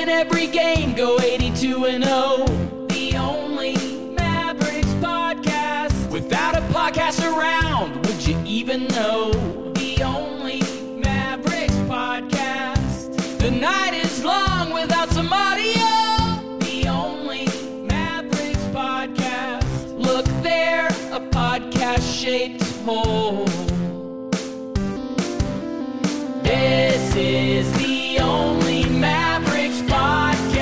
win every game, go 82-0. The only Mavericks podcast. Without a podcast around, would you even know? The only Mavericks podcast. The night is long without some audio. The only Mavericks podcast. Look there, a podcast-shaped hole. This is the only Mavericks podcast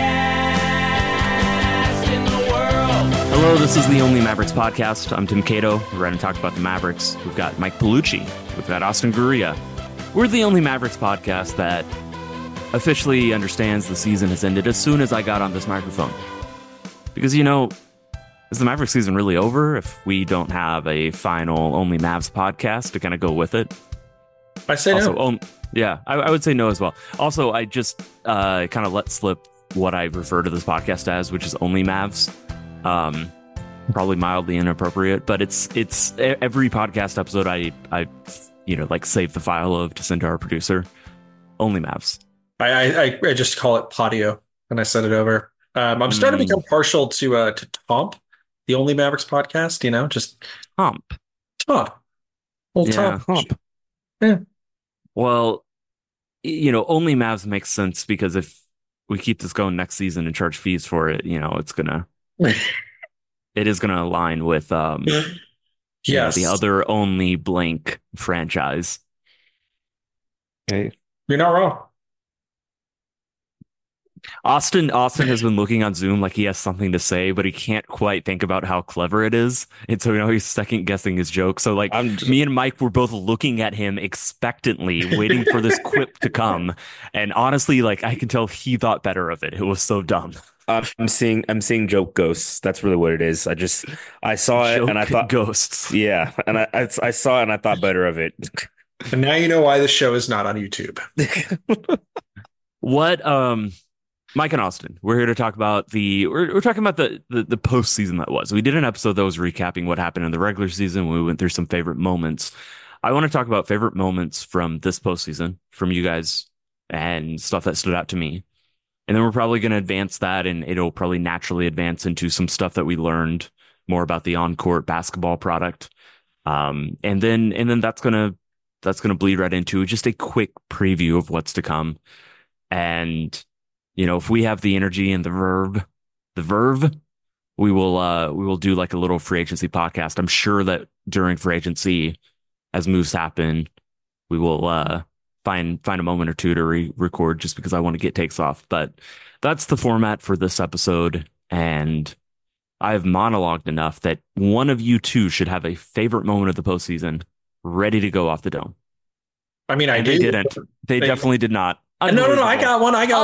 in the world. Hello, this is the Only Mavericks podcast. I'm Tim Cato. We're going to talk about the Mavericks. We've got Mike Palucci. We've got Austin Guria. We're the Only Mavericks podcast that officially understands the season has ended as soon as I got on this microphone. Because, you know, is the Mavericks season really over if we don't have a final Only Mavs podcast to kind of go with it? I say also, no. Yeah, I would say no as well. Also, I just kind of let slip what I refer to this podcast as, which is Only Mavs. Probably mildly inappropriate, but it's every podcast episode I like save the file of to send to our producer. Only Mavs. I just call it Patio and I send it over. I'm starting to become partial to Tomp, the Only Mavericks podcast. You know, just Tomp. Old Tomp. Yeah. Well, you know, Only Mavs makes sense because if we keep this going next season and charge fees for it, you know, it is gonna align with yes, the other Only blank franchise. Hey, you're not wrong. Austin has been looking on Zoom like he has something to say, but he can't quite think about how clever it is. And so, you know, he's second guessing his joke. So like me and Mike were both looking at him expectantly, waiting for this quip to come. And honestly, like I can tell he thought better of it. It was so dumb. I'm seeing joke ghosts. That's really what it is. I saw it and I thought ghosts. Yeah. And I saw it and I thought better of it. And now you know why the show is not on YouTube. What, Mike and Austin, we're here to talk about we're talking about the postseason that was. We did an episode that was recapping what happened in the regular season. We went through some favorite moments. I want to talk about favorite moments from this postseason from you guys and stuff that stood out to me. And then we're probably going to advance that, and it'll probably naturally advance into some stuff that we learned more about the on-court basketball product. And then that's gonna bleed right into just a quick preview of what's to come. And you know, if we have the energy and the verve, we will do like a little free agency podcast. I'm sure that during free agency, as moves happen, we will find a moment or two to record just because I want to get takes off. But that's the format for this episode, and I've monologued enough that one of you two should have a favorite moment of the postseason ready to go off the dome. I mean, they didn't. They definitely did not. No, I got one. I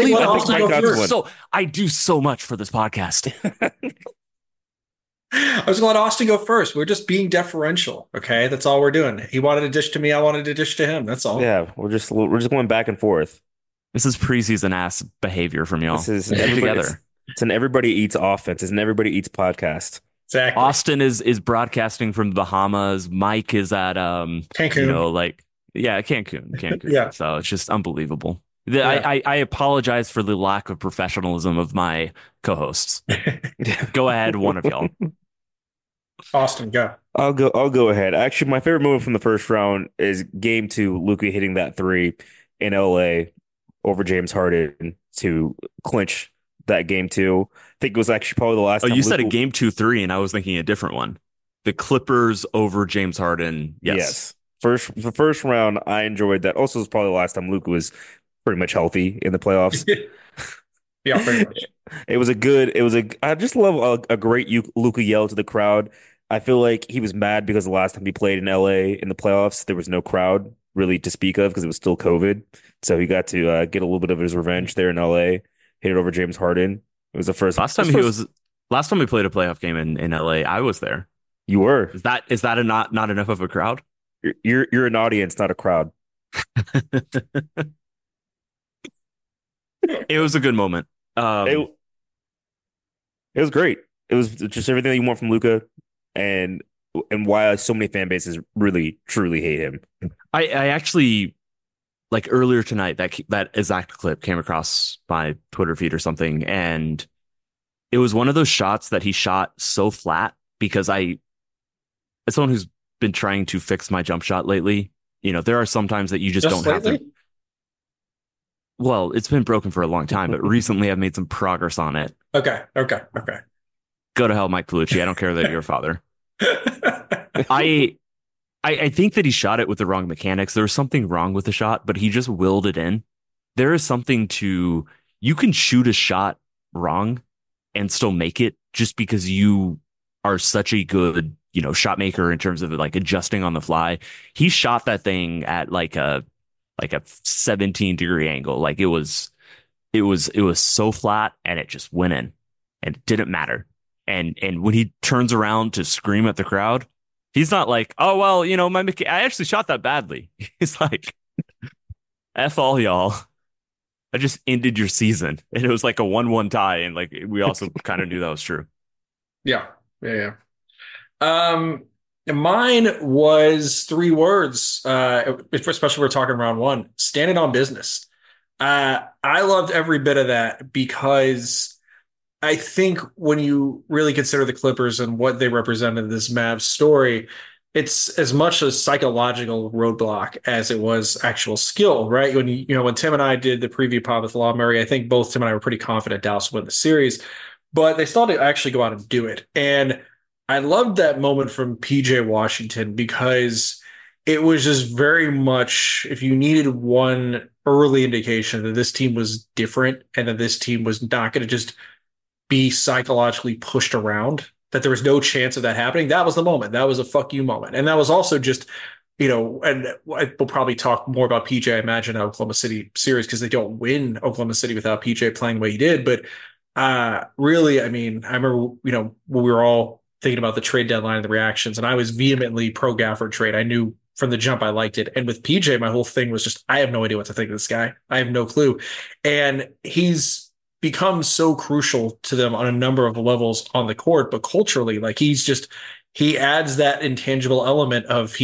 do so much for this podcast. I was going to let Austin go first. We're just being deferential. Okay. That's all we're doing. He wanted to dish to me. I wanted to dish to him. That's all. Yeah. We're just going back and forth. This is preseason ass behavior from y'all. This is together. It's an everybody eats offense. It's an everybody eats podcast. Exactly. Austin is broadcasting from the Bahamas. Mike is at Cancun. You know, like Cancun. Yeah. So it's just unbelievable. Yeah. I apologize for the lack of professionalism of my co-hosts. Go ahead, one of y'all. Austin, go. I'll go ahead. Actually, my favorite moment from the first round is game 2, Luka hitting that 3 in LA over James Harden to clinch that game 2. I think it was actually probably the last time. You said a game 2-3, and I was thinking a different one. The Clippers over James Harden. Yes. The first round, I enjoyed that. Also, it was probably the last time Luka was pretty much healthy in the playoffs. Yeah, pretty much. I just love a great Luka yell to the crowd. I feel like he was mad because the last time he played in LA in the playoffs, there was no crowd really to speak of because it was still COVID. So he got to get a little bit of his revenge there in LA, hit it over James Harden. It was the first last time we played a playoff game in LA. I was there. You were. Is that not enough of a crowd? You're an audience, not a crowd. It was a good moment. It was great. It was just everything that you want from Luka, and why so many fan bases really truly hate him. I actually like earlier tonight, that exact clip came across my Twitter feed or something, and it was one of those shots that he shot so flat because as someone who's been trying to fix my jump shot lately, there are some times that you just don't have to. Well, it's been broken for a long time, but recently I've made some progress on it. Okay. Go to hell, Mike Palucci. I don't care that you're your father. I think that he shot it with the wrong mechanics. There was something wrong with the shot, but he just willed it in. There is something you can shoot a shot wrong and still make it just because you are such a good, shot maker in terms of like adjusting on the fly. He shot that thing at like a 17-degree angle. Like it was so flat and it just went in and it didn't matter. And when he turns around to scream at the crowd, he's not like, oh, well, I actually shot that badly. He's like, F all y'all. I just ended your season. And it was like a 1-1 tie. And like, we also kind of knew that was true. Yeah. Mine was 3 words, especially if we're talking round 1, standing on business. I loved every bit of that because I think when you really consider the Clippers and what they represented in this Mavs story, it's as much a psychological roadblock as it was actual skill, right? When Tim and I did the preview pod with Law Murray, I think both Tim and I were pretty confident Dallas would win the series, but they still had to actually go out and do it. And I loved that moment from PJ Washington because it was just very much, if you needed one early indication that this team was different and that this team was not going to just be psychologically pushed around, that there was no chance of that happening, that was the moment. That was a fuck you moment. And that was also just, and we'll probably talk more about PJ, I imagine, Oklahoma City series because they don't win Oklahoma City without PJ playing the way he did. But really, I mean, I remember, when we were all thinking about the trade deadline and the reactions, and I was vehemently pro Gafford trade. I knew from the jump I liked it. And with PJ, my whole thing was just, I have no idea what to think of this guy. I have no clue. And he's become so crucial to them on a number of levels on the court, but culturally, like he adds that intangible element of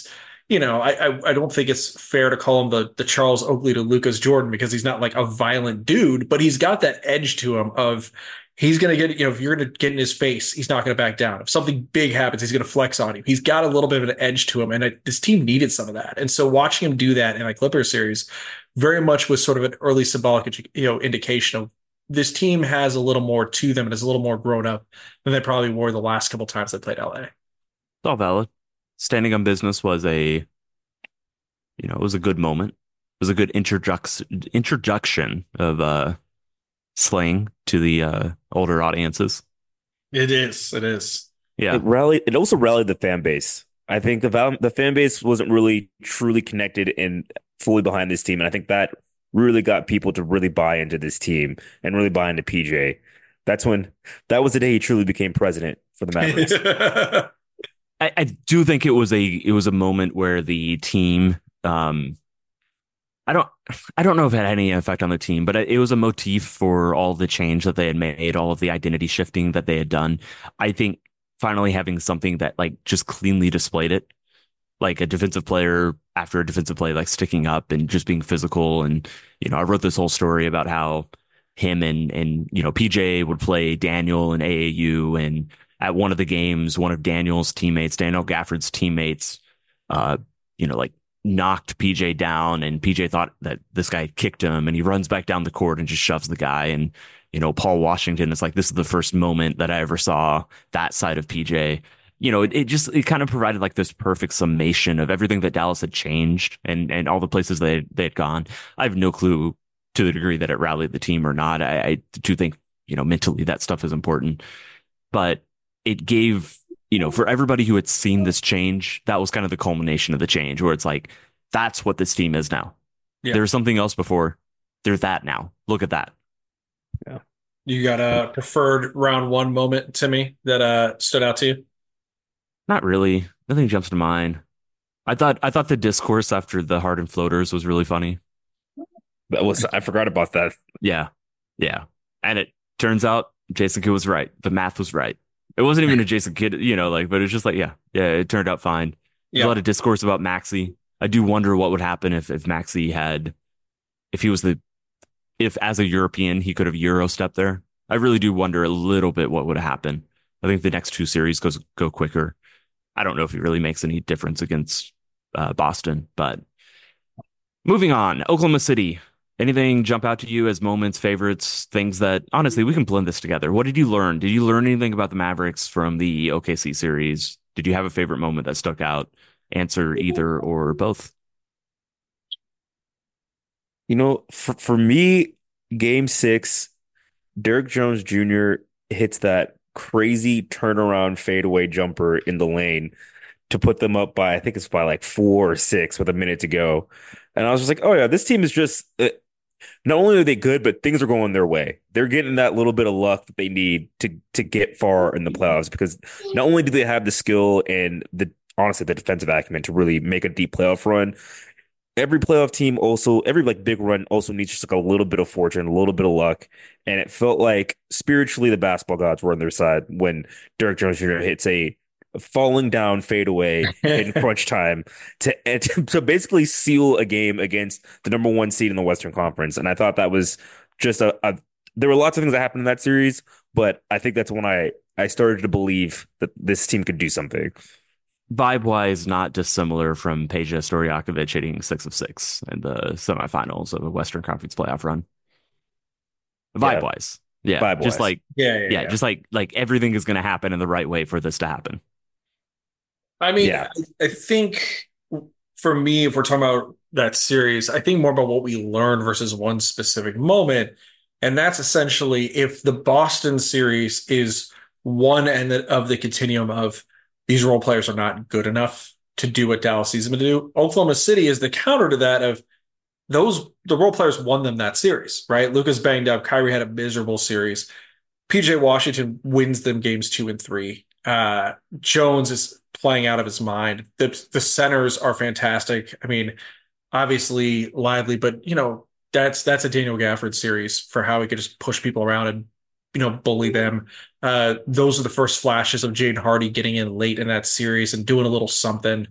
I don't think it's fair to call him the Charles Oakley to Lucas Jordan because he's not like a violent dude, but he's got that edge to him of he's going to get, if you're going to get in his face, he's not going to back down. If something big happens, he's going to flex on you. He's got a little bit of an edge to him. And this team needed some of that. And so watching him do that in a Clippers series very much was sort of an early symbolic, indication of this team has a little more to them and is a little more grown up than they probably were the last couple times they played LA. It's all valid. Standing on business was it was a good moment. It was a good introduction of slang to the older audiences. It is. Yeah. It also rallied the fan base. I think the fan base wasn't really truly connected and fully behind this team. And I think that really got people to really buy into this team and really buy into PJ. That was the day he truly became president for the Mavericks. I do think it was a moment where the team, I don't know if it had any effect on the team, but it was a motif for all the change that they had made, all of the identity shifting that they had done. I think finally having something that like just cleanly displayed it, like a defensive player after a defensive play, like sticking up and just being physical. And, I wrote this whole story about how him and PJ would play Daniel and AAU. And at one of the games, one of Daniel Gafford's teammates, like knocked PJ down, and PJ thought that this guy kicked him, and he runs back down the court and just shoves the guy. And, Paul Washington is like, this is the first moment that I ever saw that side of PJ. It kind of provided like this perfect summation of everything that Dallas had changed and all the places they had gone. I have no clue to the degree that it rallied the team or not. I do think, mentally that stuff is important, but it gave, for everybody who had seen this change, that was kind of the culmination of the change where it's like, that's what this team is now. Yeah. There was something else before. There's that now. Look at that. Yeah. You got a preferred round 1 moment, Timmy, that stood out to you? Not really. Nothing jumps to mind. I thought the discourse after the Harden floaters was really funny. I forgot about that. Yeah. And it turns out Jason Kidd was right. The math was right. It wasn't even a Jason Kidd, but it's just like, yeah, it turned out fine. There's a lot of discourse about Maxey. I do wonder what would happen if Maxey had, if he was if as a European he could have Euro stepped there. I really do wonder a little bit what would happen. I think the next two series go quicker. I don't know if it really makes any difference against Boston, but moving on. Oklahoma City. Anything jump out to you as moments, favorites, things that honestly we can blend this together? What did you learn? Did you learn anything about the Mavericks from the OKC series? Did you have a favorite moment that stuck out? Answer either or both. For me, game 6, Derrick Jones Jr. hits that crazy turnaround fadeaway jumper in the lane to put them up by, I think it's by like 4 or 6 with a minute to go. And I was just like, oh yeah, this team is just not only are they good, but things are going their way. They're getting that little bit of luck that they need to get far in the playoffs, because not only do they have the skill and honestly the defensive acumen to really make a deep playoff run, every playoff team also, every like big run also needs just like a little bit of fortune, a little bit of luck. And it felt like spiritually the basketball gods were on their side when Derrick Jones Jr. hits a falling down fadeaway in crunch time to basically seal a game against the number 1 seed in the Western Conference. And I thought that was just there were lots of things that happened in that series, but I think that's when I started to believe that this team could do something. Vibe-wise, not dissimilar from Peja Stojakovic hitting 6 of 6 in the semifinals of a Western Conference playoff run. Vibe-wise. Yeah. Vibe-wise. Just like, Yeah. just like everything is going to happen in the right way for this to happen. I mean, I think for me, if we're talking about that series, I think more about what we learned versus one specific moment. And that's essentially if the Boston series is one end of the continuum of these role players are not good enough to do what Dallas needs them to do, Oklahoma City is the counter to that of the role players won them that series, right? Luka's banged up. Kyrie had a miserable series. PJ Washington wins them games 2 and 3. Jones is playing out of his mind. The centers are fantastic. I mean, obviously Lively, but that's a Daniel Gafford series for how he could just push people around and bully them. Those are the first flashes of Jaden Hardy getting in late in that series and doing a little something.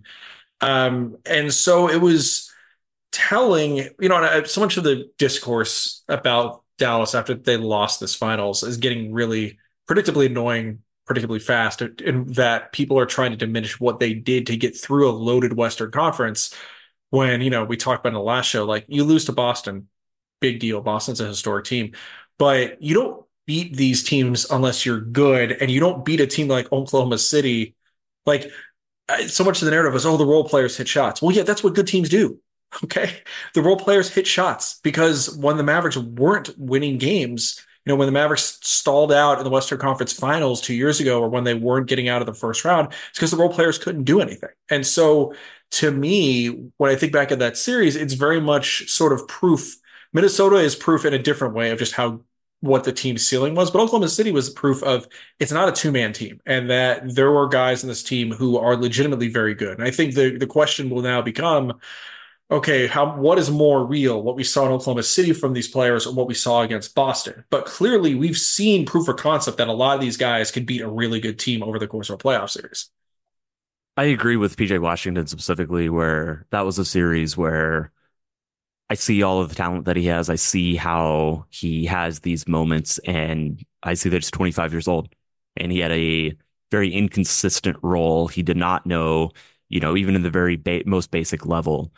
And so it was telling, so much of the discourse about Dallas after they lost this finals is getting really predictably annoying, predictably fast, in that people are trying to diminish what they did to get through a loaded Western Conference when, we talked about in the last show, like you lose to Boston, big deal. Boston's a historic team, but you don't beat these teams unless you're good, and you don't beat a team like Oklahoma City. Like so much of the narrative is, the role players hit shots. Well, yeah, that's what good teams do. Okay. The role players hit shots because when the Mavericks weren't winning games, when the Mavericks stalled out in the Western Conference Finals 2 years ago, or when they weren't getting out of the first round, it's because the role players couldn't do anything. And so to me, when I think back at that series, it's very much sort of proof. Minnesota is proof in a different way of just what the team's ceiling was. But Oklahoma City was proof of it's not a 2-man team, and that there were guys in this team who are legitimately very good. And I think the question will now become, okay, what is more real, what we saw in Oklahoma City from these players or what we saw against Boston? But clearly we've seen proof of concept that a lot of these guys could beat a really good team over the course of a playoff series. I agree with PJ Washington specifically, where that was a series where I see all of the talent that he has. I see how he has these moments, and I see that he's 25 years old and he had a very inconsistent role. He did not know, even in the very most basic level,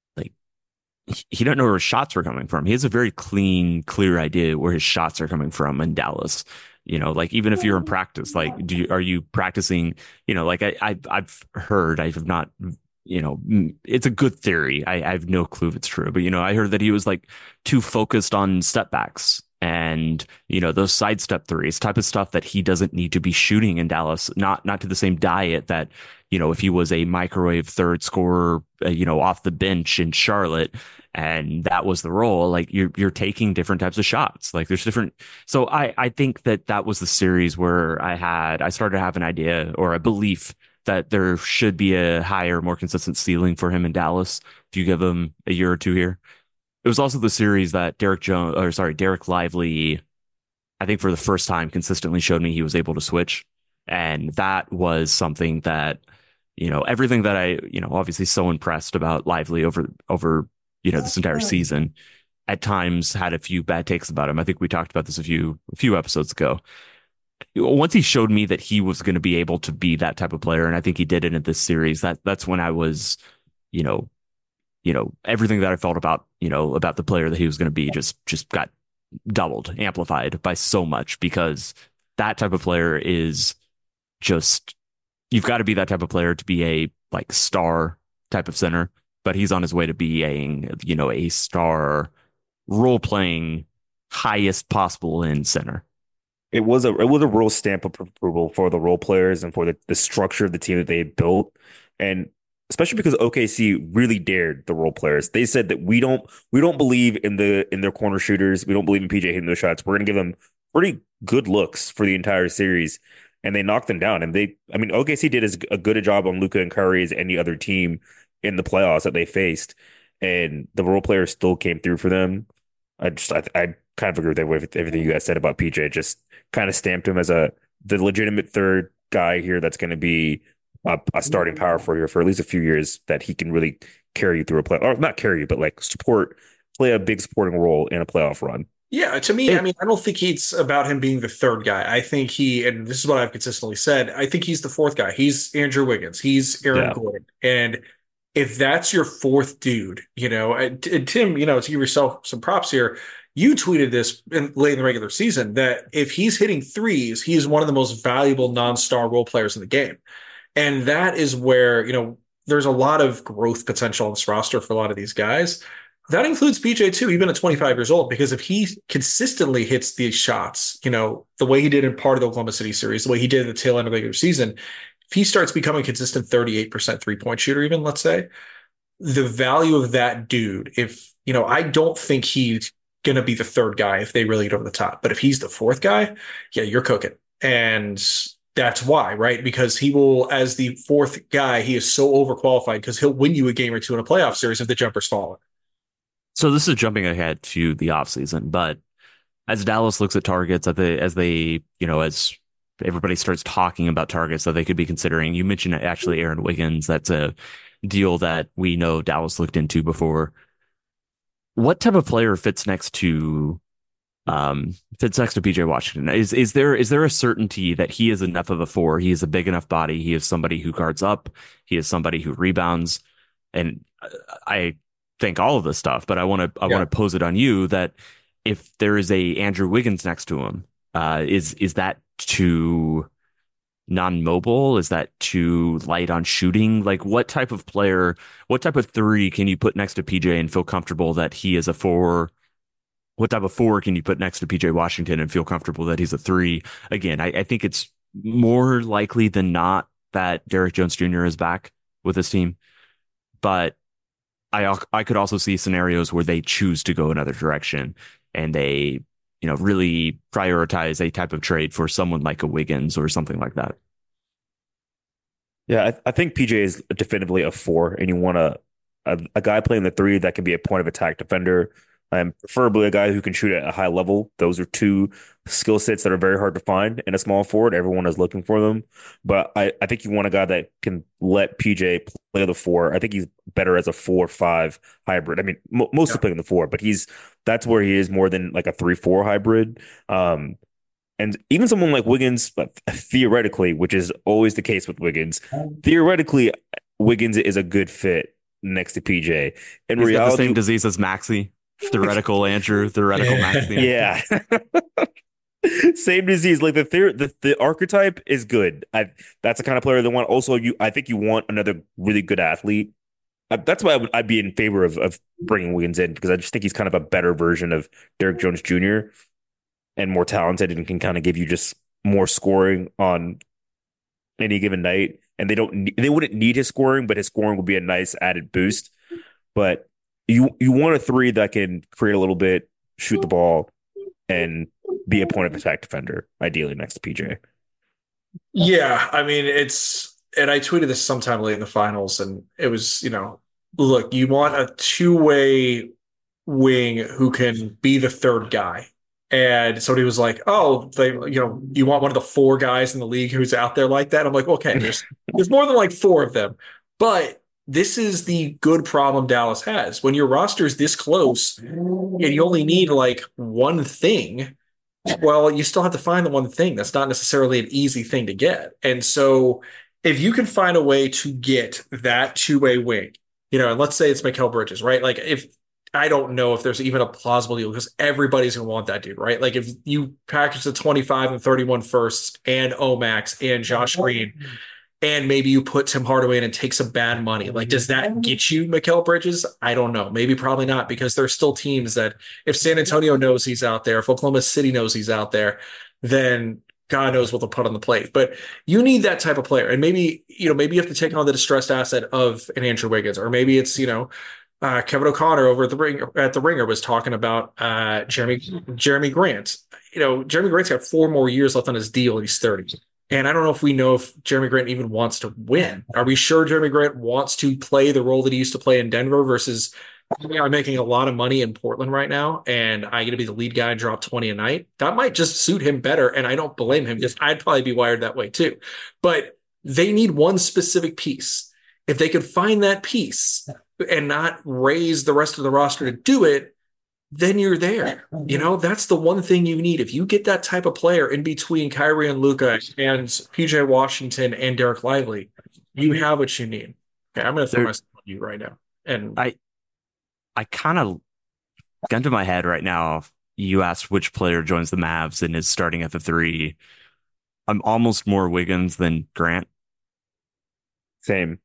he didn't know where his shots were coming from. He has a very clear idea where his shots are coming from in Dallas. Even if you're in practice, are you practicing? I've heard, I have not, it's a good theory. I have no clue if it's true, but I heard that he was too focused on step backs and those sidestep threes, type of stuff that he doesn't need to be shooting in Dallas. Not to the same diet that if he was a microwave third scorer, off the bench in Charlotte, and that was the role, you're taking different types of shots. There's different. So I think that was the series where I started to have an idea or a belief that there should be a higher, more consistent ceiling for him in Dallas if you give him a year or two here. It was also the series that Derek Lively, I think for the first time consistently showed me he was able to switch. And that was something that, everything that I, obviously so impressed about Lively over, this entire season, at times had a few bad takes about him. I think we talked about this a few episodes ago. Once he showed me that he was going to be able to be that type of player, and I think he did it in this series, that's when I was, everything that I felt about the player that he was going to be just got doubled, amplified by so much, because that type of player is just, you've got to be that type of player to be a like star type of center, but he's on his way to being, a star role playing highest possible in center. It was a real stamp of approval for the role players and for the structure of the team that they had built. And especially because OKC really dared the role players. They said that we don't believe in their corner shooters. We don't believe in PJ hitting those shots. We're going to give them pretty good looks for the entire series. And they knocked them down. And OKC did as good a job on Luka and Curry as any other team in the playoffs that they faced. And the role players still came through for them. I kind of agree with everything you guys said about PJ. Just kind of stamped him as the legitimate third guy here that's going to be a starting power for you for at least a few years, that he can really carry you through a play, or not carry you, but like play a big supporting role in a playoff run. Yeah, to me, I don't think it's about him being the third guy. I think and this is what I've consistently said, I think he's the fourth guy. He's Andrew Wiggins. He's Aaron Gordon. And if that's your fourth dude, and Tim, to give yourself some props here, you tweeted this late in the regular season that if he's hitting threes, he is one of the most valuable non-star role players in the game. And that is where, there's a lot of growth potential on this roster for a lot of these guys. That includes PJ too, even at 25 years old, because if he consistently hits these shots, the way he did in part of the Oklahoma City series, the way he did at the tail end of the regular season, if he starts becoming a consistent 38% three-point shooter, even, let's say, the value of that dude, I don't think he's going to be the third guy if they really get over the top. But if he's the fourth guy, yeah, you're cooking. And that's why, right? Because he will, as the fourth guy, he is so overqualified because he'll win you a game or two in a playoff series if the jumper's falling. So this is jumping ahead to the offseason, but as Dallas looks at targets, as everybody starts talking about targets that they could be considering, you mentioned actually Aaron Wiggins. That's a deal that we know Dallas looked into before. What type of player fits next to PJ Washington? Is there a certainty that he is enough of a four? He is a big enough body. He is somebody who guards up. He is somebody who rebounds. And I think all of this stuff, but I want to pose it on you that if there is a Andrew Wiggins next to him, is that too non-mobile? Is that too light on shooting? Like, what type of player, what type of three can you put next to PJ and feel comfortable that he is a four? What type of four can you put next to PJ Washington and feel comfortable that he's a three? Again, I think it's more likely than not that Derrick Jones Jr. is back with his team, but I could also see scenarios where they choose to go another direction and they, really prioritize a type of trade for someone like a Wiggins or something like that. Yeah, I think PJ is definitively a four, and you want a guy playing the three that can be a point of attack defender. Preferably a guy who can shoot at a high level. Those are two skill sets that are very hard to find in a small forward. Everyone is looking for them. But I think you want a guy that can let PJ play the four. I think he's better as a 4-5 hybrid. I mean, mostly playing the four, but that's where he is more than like a 3-4 hybrid. And even someone like Wiggins, theoretically, which is always the case with Wiggins, theoretically, Wiggins is a good fit next to PJ. In reality, got the same disease as Maxey. Theoretical Andrew, theoretical Maxey. Yeah. Same disease. Like the archetype is good. That's the kind of player they want. Also, I think you want another really good athlete. That's why I'd be in favor of bringing Wiggins in, because I just think he's kind of a better version of Derrick Jones Jr. and more talented and can kind of give you just more scoring on any given night. And they wouldn't need his scoring, but his scoring would be a nice added boost. But you want a three that can create a little bit, shoot the ball, and be a point of attack defender, ideally next to PJ. Yeah, I mean, and I tweeted this sometime late in the finals, and it was, look, you want a two-way wing who can be the third guy. And somebody was like, oh, you want one of the four guys in the league who's out there like that? I'm like, okay, There's more than like four of them. But this is the good problem Dallas has. When your roster is this close and you only need like one thing, well, you still have to find the one thing. That's not necessarily an easy thing to get. And so if you can find a way to get that two-way wing, and let's say it's Mikal Bridges, right? Like if I don't know if there's even a plausible deal because everybody's gonna want that dude, right? Like if you package the 25 and 31 firsts and Omax and Josh Green and maybe you put Tim Hardaway in and take some bad money. Like, does that get you Mikal Bridges? I don't know. Maybe probably not because there's still teams that if San Antonio knows he's out there, if Oklahoma City knows he's out there, then God knows what they'll put on the plate. But you need that type of player. And maybe you have to take on the distressed asset of an Andrew Wiggins, or maybe it's, Kevin O'Connor over at the Ringer was talking about Jeremy Grant. Jeremy Grant's got 4 more years left on his deal and he's 30. And I don't know if Jeremy Grant even wants to win. Are we sure Jeremy Grant wants to play the role that he used to play in Denver versus I'm making a lot of money in Portland right now and I get to be the lead guy and drop 20 a night? That might just suit him better. And I don't blame him because I'd probably be wired that way too. But they need one specific piece. If they could find that piece and not raise the rest of the roster to do it, then you're there. That's the one thing you need. If you get that type of player in between Kyrie and Luka and PJ Washington and Derek Lively, you have what you need. Okay, I'm going to throw myself on you right now. And I kind of gun to my head right now. You asked which player joins the Mavs and is starting at the 3. I'm almost more Wiggins than Grant. Same.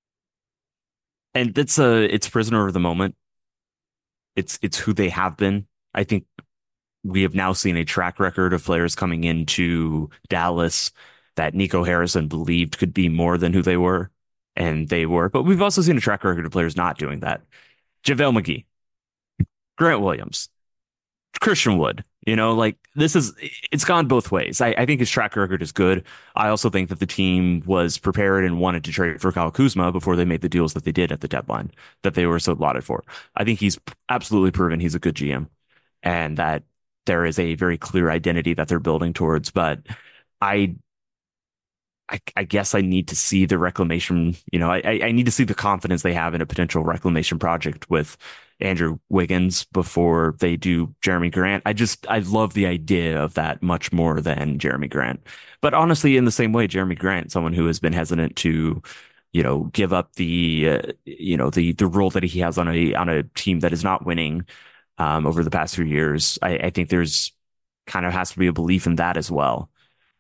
And it's prisoner of the moment. It's who they have been. I think we have now seen a track record of players coming into Dallas that Nico Harrison believed could be more than who they were, and they were. But we've also seen a track record of players not doing that. JaVale McGee, Grant Williams, Christian Wood. It's gone both ways. I think his track record is good. I also think that the team was prepared and wanted to trade for Kyle Kuzma before they made the deals that they did at the deadline that they were so lauded for. I think he's absolutely proven he's a good GM and that there is a very clear identity that they're building towards. But I guess I need to see the reclamation. I need to see the confidence they have in a potential reclamation project with Andrew Wiggins before they do Jeremy Grant. I love the idea of that much more than Jeremy Grant. But honestly, in the same way, Jeremy Grant, someone who has been hesitant to, give up the role that he has on a team that is not winning over the past few years. I think there's kind of has to be a belief in that as well.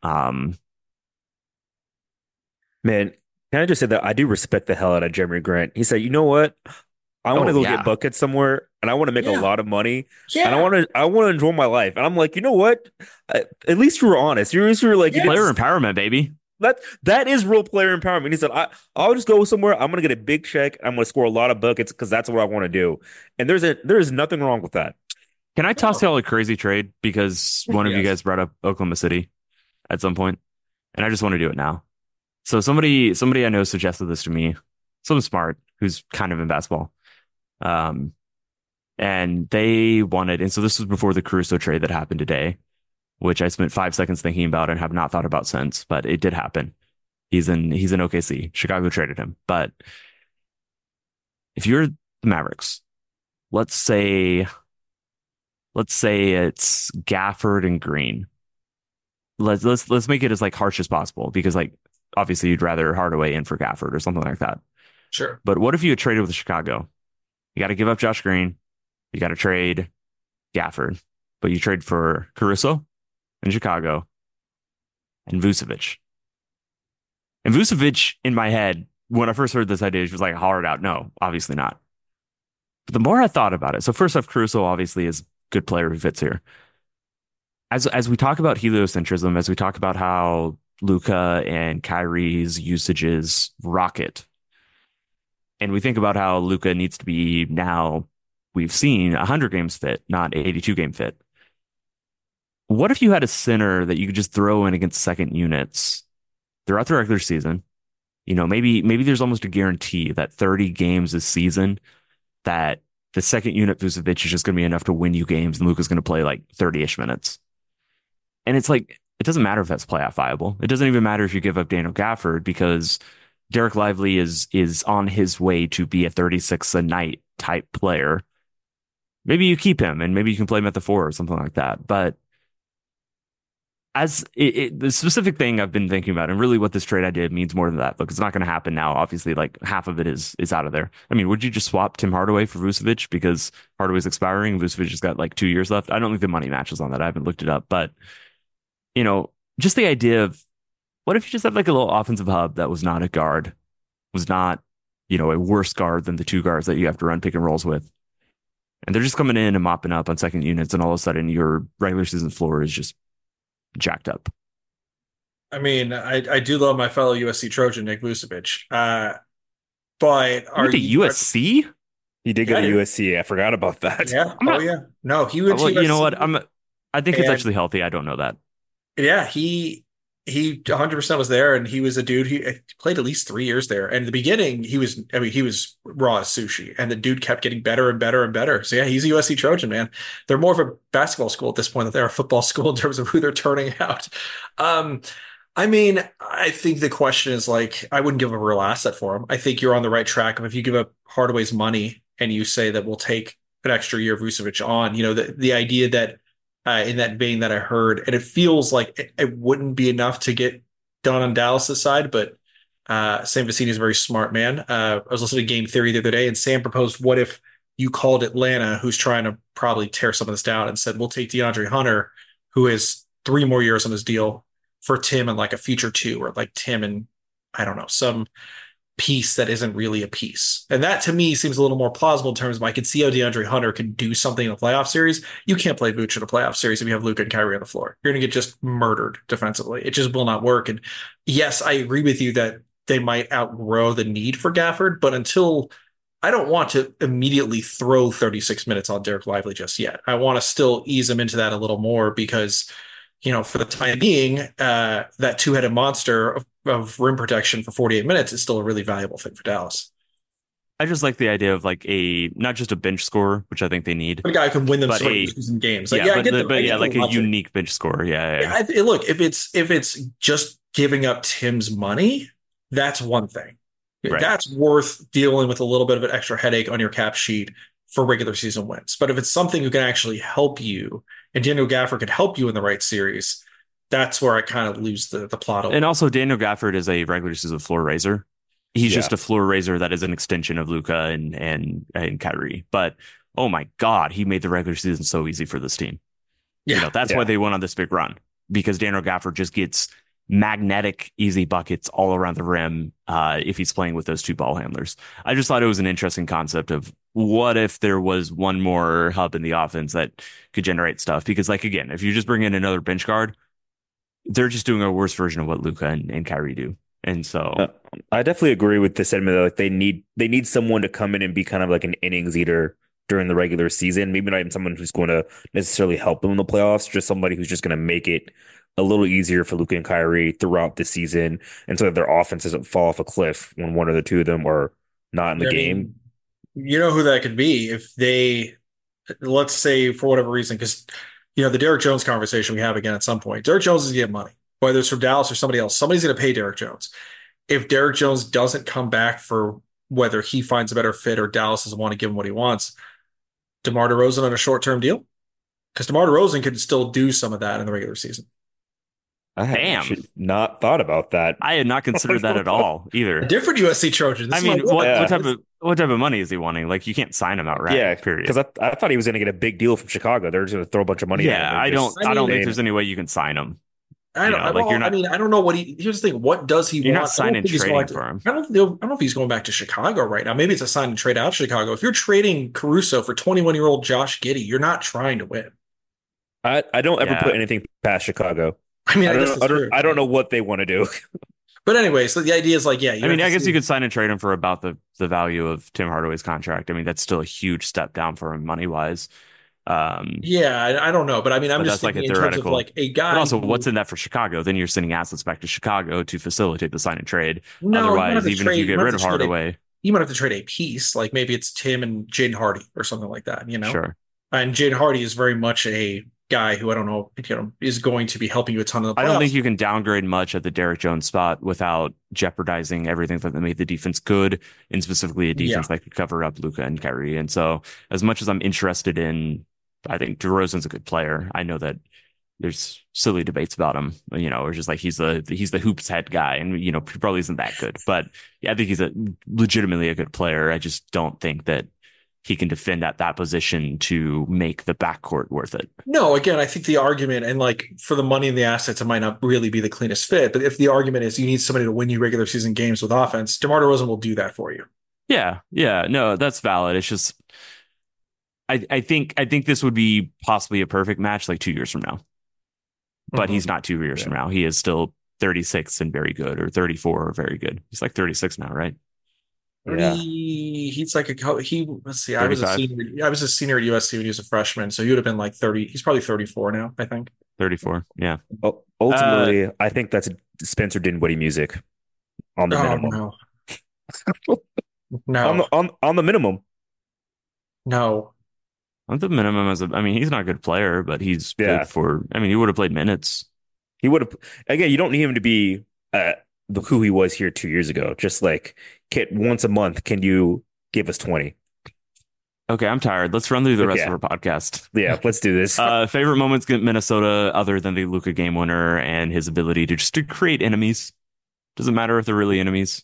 Man, can I just say that I do respect the hell out of Jeremy Grant? He said, "You know what? I want to go get buckets somewhere, and I want to make a lot of money, and I want to enjoy my life." And I'm like, you know what? At least you were honest. You were like, player empowerment, baby. That is real player empowerment. He said, I'll just go somewhere. I'm gonna get a big check. I'm gonna score a lot of buckets because that's what I want to do. And there is nothing wrong with that. Can I toss y'all a crazy trade because one of you guys brought up Oklahoma City at some point, and I just want to do it now. So somebody I know suggested this to me, someone smart who's kind of in basketball. And they wanted, and so this was before the Caruso trade that happened today, which I spent 5 seconds thinking about and have not thought about since, but it did happen. He's in OKC. Chicago traded him. But if you're the Mavericks, let's say it's Gafford and Green. Let's make it as harsh as possible because obviously you'd rather Hardaway in for Gafford or something like that. Sure. But what if you had traded with Chicago? You got to give up Josh Green. You got to trade Gafford, but you trade for Caruso in Chicago and Vucevic. And Vucevic, in my head, when I first heard this idea, was hard out. No, obviously not. But the more I thought about it, so first off, Caruso obviously is a good player who fits here. As we talk about heliocentrism, as we talk about how Luka and Kyrie's usages rocket, and we think about how Luka needs to be now, we've seen 100 games fit, not 82 game fit. What if you had a center that you could just throw in against second units throughout the regular season? Maybe there's almost a guarantee that 30 games this season that the second unit Vucevic is just going to be enough to win you games and Luka's going to play 30-ish minutes. And it's it doesn't matter if that's playoff viable. It doesn't even matter if you give up Daniel Gafford because Derek Lively is on his way to be a 36 a night type player. Maybe you keep him and maybe you can play him at the 4 or something like that. But the specific thing I've been thinking about and really what this trade idea means more than that. Look, it's not going to happen now. Obviously, like half of it is out of there. I mean, would you just swap Tim Hardaway for Vucevic because Hardaway's expiring and Vucevic has got like 2 years left? I don't think the money matches on that. I haven't looked it up, but just the idea of what if you just have like a little offensive hub that was not a guard, was not, a worse guard than the 2 guards that you have to run pick and rolls with. And they're just coming in and mopping up on second units, and all of a sudden your regular season floor is just jacked up. I mean, I do love my fellow USC Trojan, Nick Vucevic. But are you USC? He did go to USC. I forgot about that. Yeah. Yeah. No, he went to USC. You know what? I think it's actually healthy. I don't know that. Yeah, he 100% was there, and he was a dude. He played at least 3 years there. And in the beginning, he was raw as sushi, and the dude kept getting better and better and better. So yeah, he's a USC Trojan, man. They're more of a basketball school at this point than they're a football school in terms of who they're turning out. I mean, I think the question is like, I wouldn't give up a real asset for him. I think you're on the right track. If you give up Hardaway's money and you say that we'll take an extra year of Vucevic on, the idea that in that vein that I heard, and it feels like it wouldn't be enough to get done on Dallas's side, but Sam Vecini is a very smart man. I was listening to Game Theory the other day, and Sam proposed, what if you called Atlanta, who's trying to probably tear some of this down, and said, we'll take DeAndre Hunter, who has 3 more years on his deal, for Tim and like a future 2, or like Tim and I don't know, some piece that isn't really a piece. And that to me seems a little more plausible in terms of I could see how DeAndre Hunter can do something in a playoff series. You can't play Vooch in a playoff series if you have Luka and Kyrie on the floor. You're going to get just murdered defensively. It just will not work. And yes, I agree with you that they might outgrow the need for Gafford, but until I don't want to immediately throw 36 minutes on Derek Lively just yet. I want to still ease him into that a little more because for the time being, that 2-headed monster of rim protection for 48 minutes is still a really valuable thing for Dallas. I just like the idea of like not just a bench scorer, which I think they need. A guy who can win them season games. Like, like a unique bench scorer. Yeah. Look, if it's just giving up Tim's money, that's one thing. Right. That's worth dealing with a little bit of an extra headache on your cap sheet for regular season wins. But if it's something who can actually help you, and Daniel Gafford could help you in the right series, that's where I kind of lose the plot. And also, Daniel Gafford is a regular season floor raiser. He's just a floor raiser that is an extension of Luka and Kyrie. But oh my God, he made the regular season so easy for this team. Yeah, that's why they went on this big run, because Daniel Gafford just gets magnetic, easy buckets all around the rim if he's playing with those 2 ball handlers. I just thought it was an interesting concept of what if there was one more hub in the offense that could generate stuff? Because, like, again, if you just bring in another bench guard, they're just doing a worse version of what Luka and Kyrie do. And so I definitely agree with the sentiment that like they need someone to come in and be kind of like an innings eater during the regular season. Maybe not even someone who's going to necessarily help them in the playoffs, just somebody who's just going to make it a little easier for Luka and Kyrie throughout the season, and so that their offense doesn't fall off a cliff when one or the 2 of them are not in the game. You know who that could be if they, let's say for whatever reason, because the Derrick Jones conversation we have again at some point. Derrick Jones is going to get money, whether it's from Dallas or somebody else. Somebody's going to pay Derrick Jones. If Derrick Jones doesn't come back for whether he finds a better fit or Dallas doesn't want to give him what he wants, DeMar DeRozan on a short-term deal? Because DeMar DeRozan could still do some of that in the regular season. I had not thought about that. I had not considered that at all either. A different USC Trojan. I mean, what type of money is he wanting? Like, you can't sign him outright. Yeah, period. Because I thought he was going to get a big deal from Chicago. They're just going to throw a bunch of money. Yeah, I don't think there's any way you can sign him. I don't know what here's the thing. What does he want? You're not signing trading for him. I don't know if he's going back to Chicago right now. Maybe it's a sign and trade out of Chicago. If you're trading Caruso for 21-year-old Josh Giddey, you're not trying to win. I don't ever put anything past Chicago. I mean, I don't know what they want to do. But anyway, so the idea is like, I guess you could sign and trade him for about the value of Tim Hardaway's contract. I mean, that's still a huge step down for him money wise. I don't know, but I mean, I'm just thinking in terms of like a guy. But also, what's in that for Chicago? Then you're sending assets back to Chicago to facilitate the sign and trade. No, otherwise, even if you get rid of Hardaway, you might have to trade a piece. Like maybe it's Tim and Jaden Hardy or something like that. Sure. And Jaden Hardy is very much a guy who I don't know, is going to be helping you a ton in the I don't think playoffs. you can downgrade much at the Derrick Jones spot without jeopardizing everything that made the defense good, and specifically a Yeah. defense that could cover up Luka and Kyrie. And so, as much as I'm interested in, I think DeRozan's a good player. I know that there's silly debates about him, or just like he's the hoops head guy, and he probably isn't that good. But yeah, I think he's legitimately a good player. I just don't think that he can defend at that position to make the backcourt worth it. No, again, I think the argument, and like for the money and the assets, it might not really be the cleanest fit. But if the argument is you need somebody to win you regular season games with offense, DeMar DeRozan will do that for you. Yeah, yeah, no, that's valid. It's just I think this would be possibly a perfect match like 2 years from now. But he's not 2 years from now. He is still 36 and very good, or 34 or very good. He's like 36 now, right? Yeah. He's like let's see, 35? I was a senior at USC when he was a freshman, so he would have been like 30. He's probably 34 now, I think. 34. Yeah. Ultimately, I think that's Spencer Dinwiddie music on the minimum. No. No. On the minimum. No. At the minimum, he's not a good player, but he's Yeah. good he would have played minutes. He would have, again, you don't need him to be who he was here 2 years ago. Just like, once a month, can you give us 20? Okay, I'm tired. Let's run through the rest Yeah. of our podcast. Yeah, let's do this. Favorite moments against Minnesota other than the Luka game winner and his ability to create enemies. Doesn't matter if they're really enemies.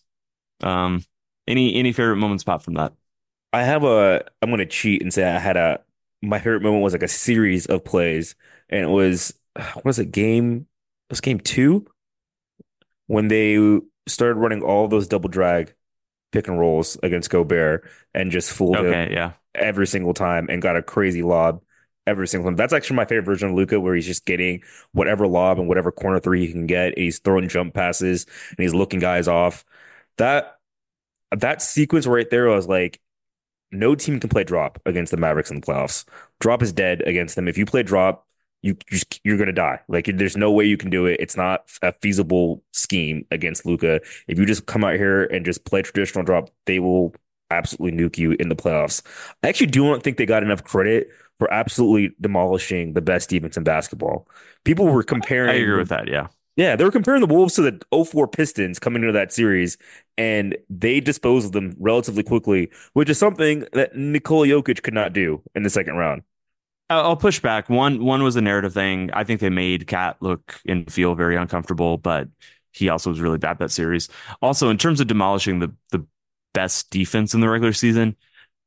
Any favorite moments pop from that? I'm going to cheat and say my favorite moment was like a series of plays, and it was, what was it, game 2? When they started running all those double drag pick and rolls against Gobert and just fooled him Okay, yeah. every single time and got a crazy lob every single time. That's actually my favorite version of Luka, where he's just getting whatever lob and whatever corner three he can get. And he's throwing jump passes and he's looking guys off. That sequence right there was like, no team can play drop against the Mavericks in the playoffs. Drop is dead against them. If you play drop, you're gonna die. Like, there's no way you can do it. It's not a feasible scheme against Luka. If you just come out here and just play traditional drop, they will absolutely nuke you in the playoffs. I actually do not think they got enough credit for absolutely demolishing the best defense in basketball. People were comparing. I agree with that. Yeah. Yeah, they were comparing the Wolves to the 04 Pistons coming into that series, and they disposed of them relatively quickly, which is something that Nikola Jokic could not do in the second round. I'll push back. One was a narrative thing. I think they made Cat look and feel very uncomfortable, but he also was really bad that series. Also, in terms of demolishing the best defense in the regular season,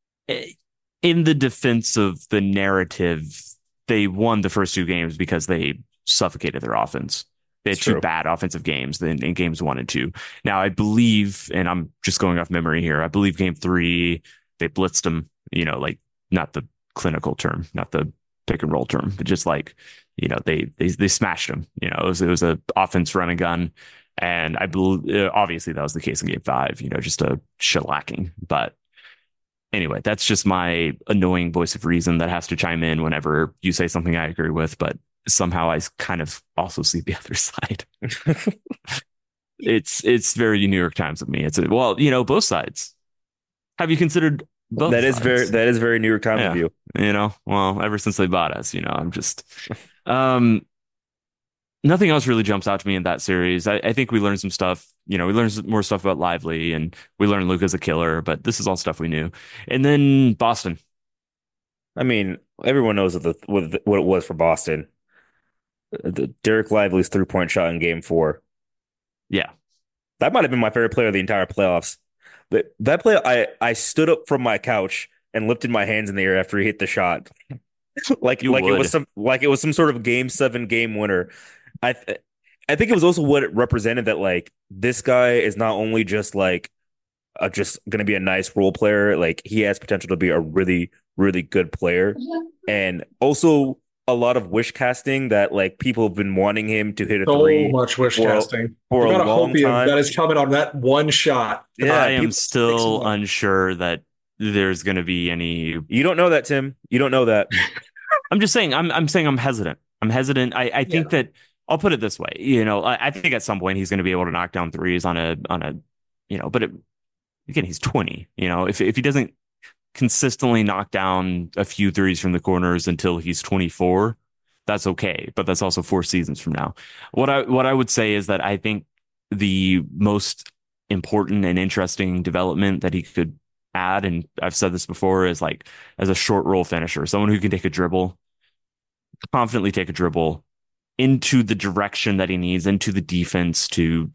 in the defense of the narrative, they won the first 2 games because they suffocated their offense. They had It's 2 true. bad offensive games in games 1 and 2. Now, I believe, and I'm just going off memory here, I believe game 3, they blitzed them, like not the clinical term, not the pick and roll term, but just like, they smashed them. It was a offense run and gun. And I believe, obviously, that was the case in game 5, just a shellacking. But anyway, that's just my annoying voice of reason that has to chime in whenever you say something I agree with. But somehow I kind of also see the other side. It's very New York Times of me. Both sides. Have you considered both That is sides? very New York Times Yeah. of you. Ever since they bought us, I'm just nothing else really jumps out to me in that series. I think we learned some stuff. We learned more stuff about Lively, and we learned Luka's a killer, but this is all stuff we knew. And then Boston. I mean, everyone knows what it was for Boston. The Derek Lively's 3-point shot in game 4. Yeah. That might have been my favorite player of the entire playoffs. But that play, I stood up from my couch and lifted my hands in the air after he hit the shot, like You it was some sort of game 7 game winner. I think it was also what it represented, that like, this guy is not only just like just going to be a nice role player, like he has potential to be a really, really good player, and also a lot of wish casting, that like people have been wanting him to hit a So three much wish casting. for You a gotta long hope time. that is coming on that one shot. Yeah, I am people- still unsure that there's going to be any. You don't know that, Tim. You don't know that. I'm just saying. I'm saying I'm hesitant. I think that I'll put it this way. I think at some point he's going to be able to knock down threes on a. But again, he's 20. If he doesn't consistently knock down a few threes from the corners until he's 24, that's okay, but that's also 4 seasons from now. What I would say is that I think the most important and interesting development that he could add, and I've said this before, is like as a short roll finisher, someone who can take a dribble, confidently take a dribble into the direction that he needs, into the defense to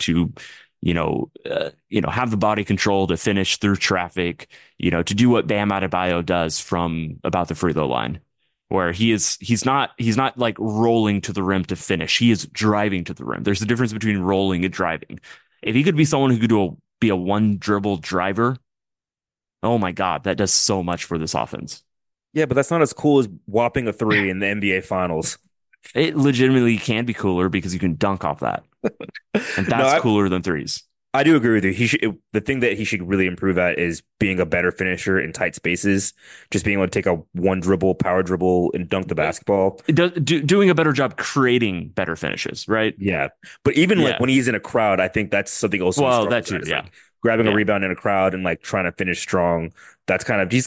have the body control to finish through traffic, to do what Bam Adebayo does from about the free throw line, where he's not like rolling to the rim to finish. He is driving to the rim. There's a difference between rolling and driving. If he could be someone who could be a one dribble driver, oh my God, that does so much for this offense. Yeah, but that's not as cool as whopping a three in the NBA Finals. It legitimately can be cooler because you can dunk off that. And that's cooler than threes. I do agree with you. The thing that he should really improve at is being a better finisher in tight spaces, just being able to take a one dribble, power dribble, and dunk the basketball. Doing a better job creating better finishes, right? Yeah. But even like when he's in a crowd, I think that's something also. Well, that too, yeah. Like grabbing a rebound in a crowd and like trying to finish strong. That's he's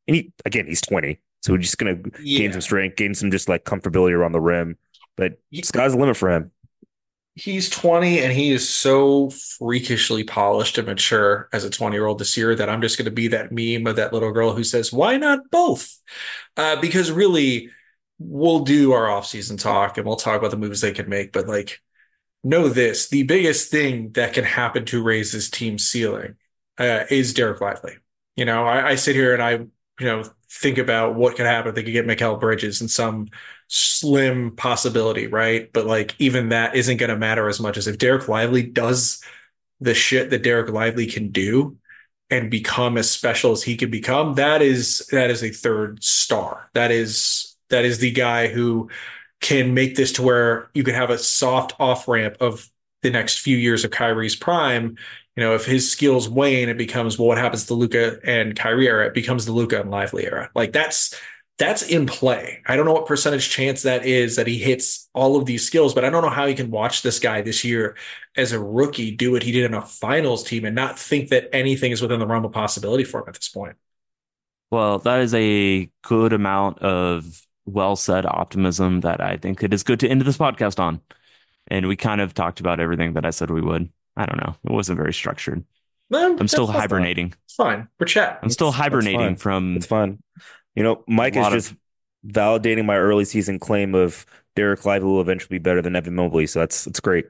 20. So we're just going to gain some strength, gain some just like comfortability around the rim. But sky's the limit for him. He's 20 and he is so freakishly polished and mature as a 20-year-old this year that I'm just going to be that meme of that little girl who says, why not both? Because really, we'll do our offseason talk and we'll talk about the moves they can make. But like, know this, the biggest thing that can happen to raise this team's ceiling is Derek Lively. I sit here and I think about what could happen if they could get Mikal Bridges and some slim possibility, right? But like even that isn't going to matter as much as if Derek Lively does the shit that Derek Lively can do and become as special as he can become. That is a third star. That is the guy who can make this to where you could have a soft off ramp of the next few years of Kyrie's prime. If his skills wane, it becomes, well, what happens to Luka and Kyrie era? It becomes the Luka and Lively era. Like that's in play. I don't know what percentage chance that is that he hits all of these skills, but I don't know how you can watch this guy this year as a rookie do what he did in a finals team and not think that anything is within the realm of possibility for him at this point. Well, that is a good amount of well-said optimism that I think it is good to end this podcast on. And we kind of talked about everything that I said we would. I don't know. It wasn't very structured. I'm still hibernating. It's fine. We're chatting. I'm still hibernating from. It's fine. Mike is just validating my early season claim of Derek Lively will eventually be better than Evan Mobley. So that's great.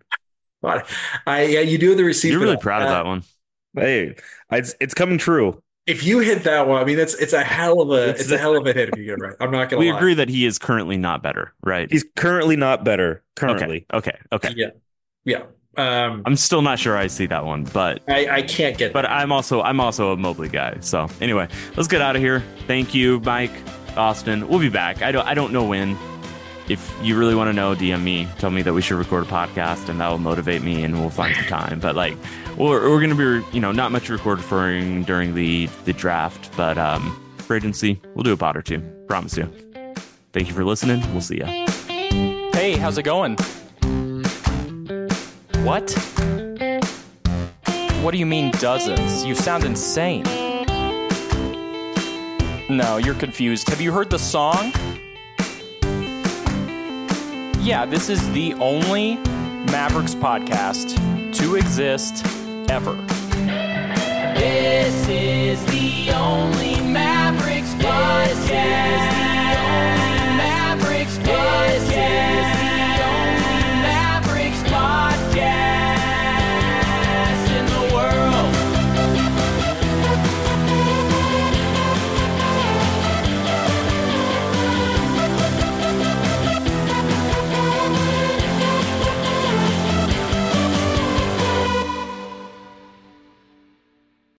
You do have the receipt. You're really proud of that one. Hey, it's coming true. If you hit that one, I mean, it's a hell of a hit if you get it right. I'm not going to lie. We agree that he is currently not better, right? He's currently not better. Currently. Okay. Yeah. I'm still not sure I see that one, but I can't get that. But I'm also a Mobley guy. So anyway, let's get out of here. Thank you, Mike, Austin. We'll be back. I don't know when. If you really want to know, DM me. Tell me that we should record a podcast, and that will motivate me, and we'll find some time. But like, we're going to be, not much recording during the draft, but free agency, we'll do a pod or two. Promise you. Thank you for listening. We'll see ya. Hey, how's it going? What? What do you mean dozens? You sound insane. No, you're confused. Have you heard the song? Yeah, this is the only Mavericks podcast to exist ever. This is the only Mavericks podcast. This is the only Mavericks podcast.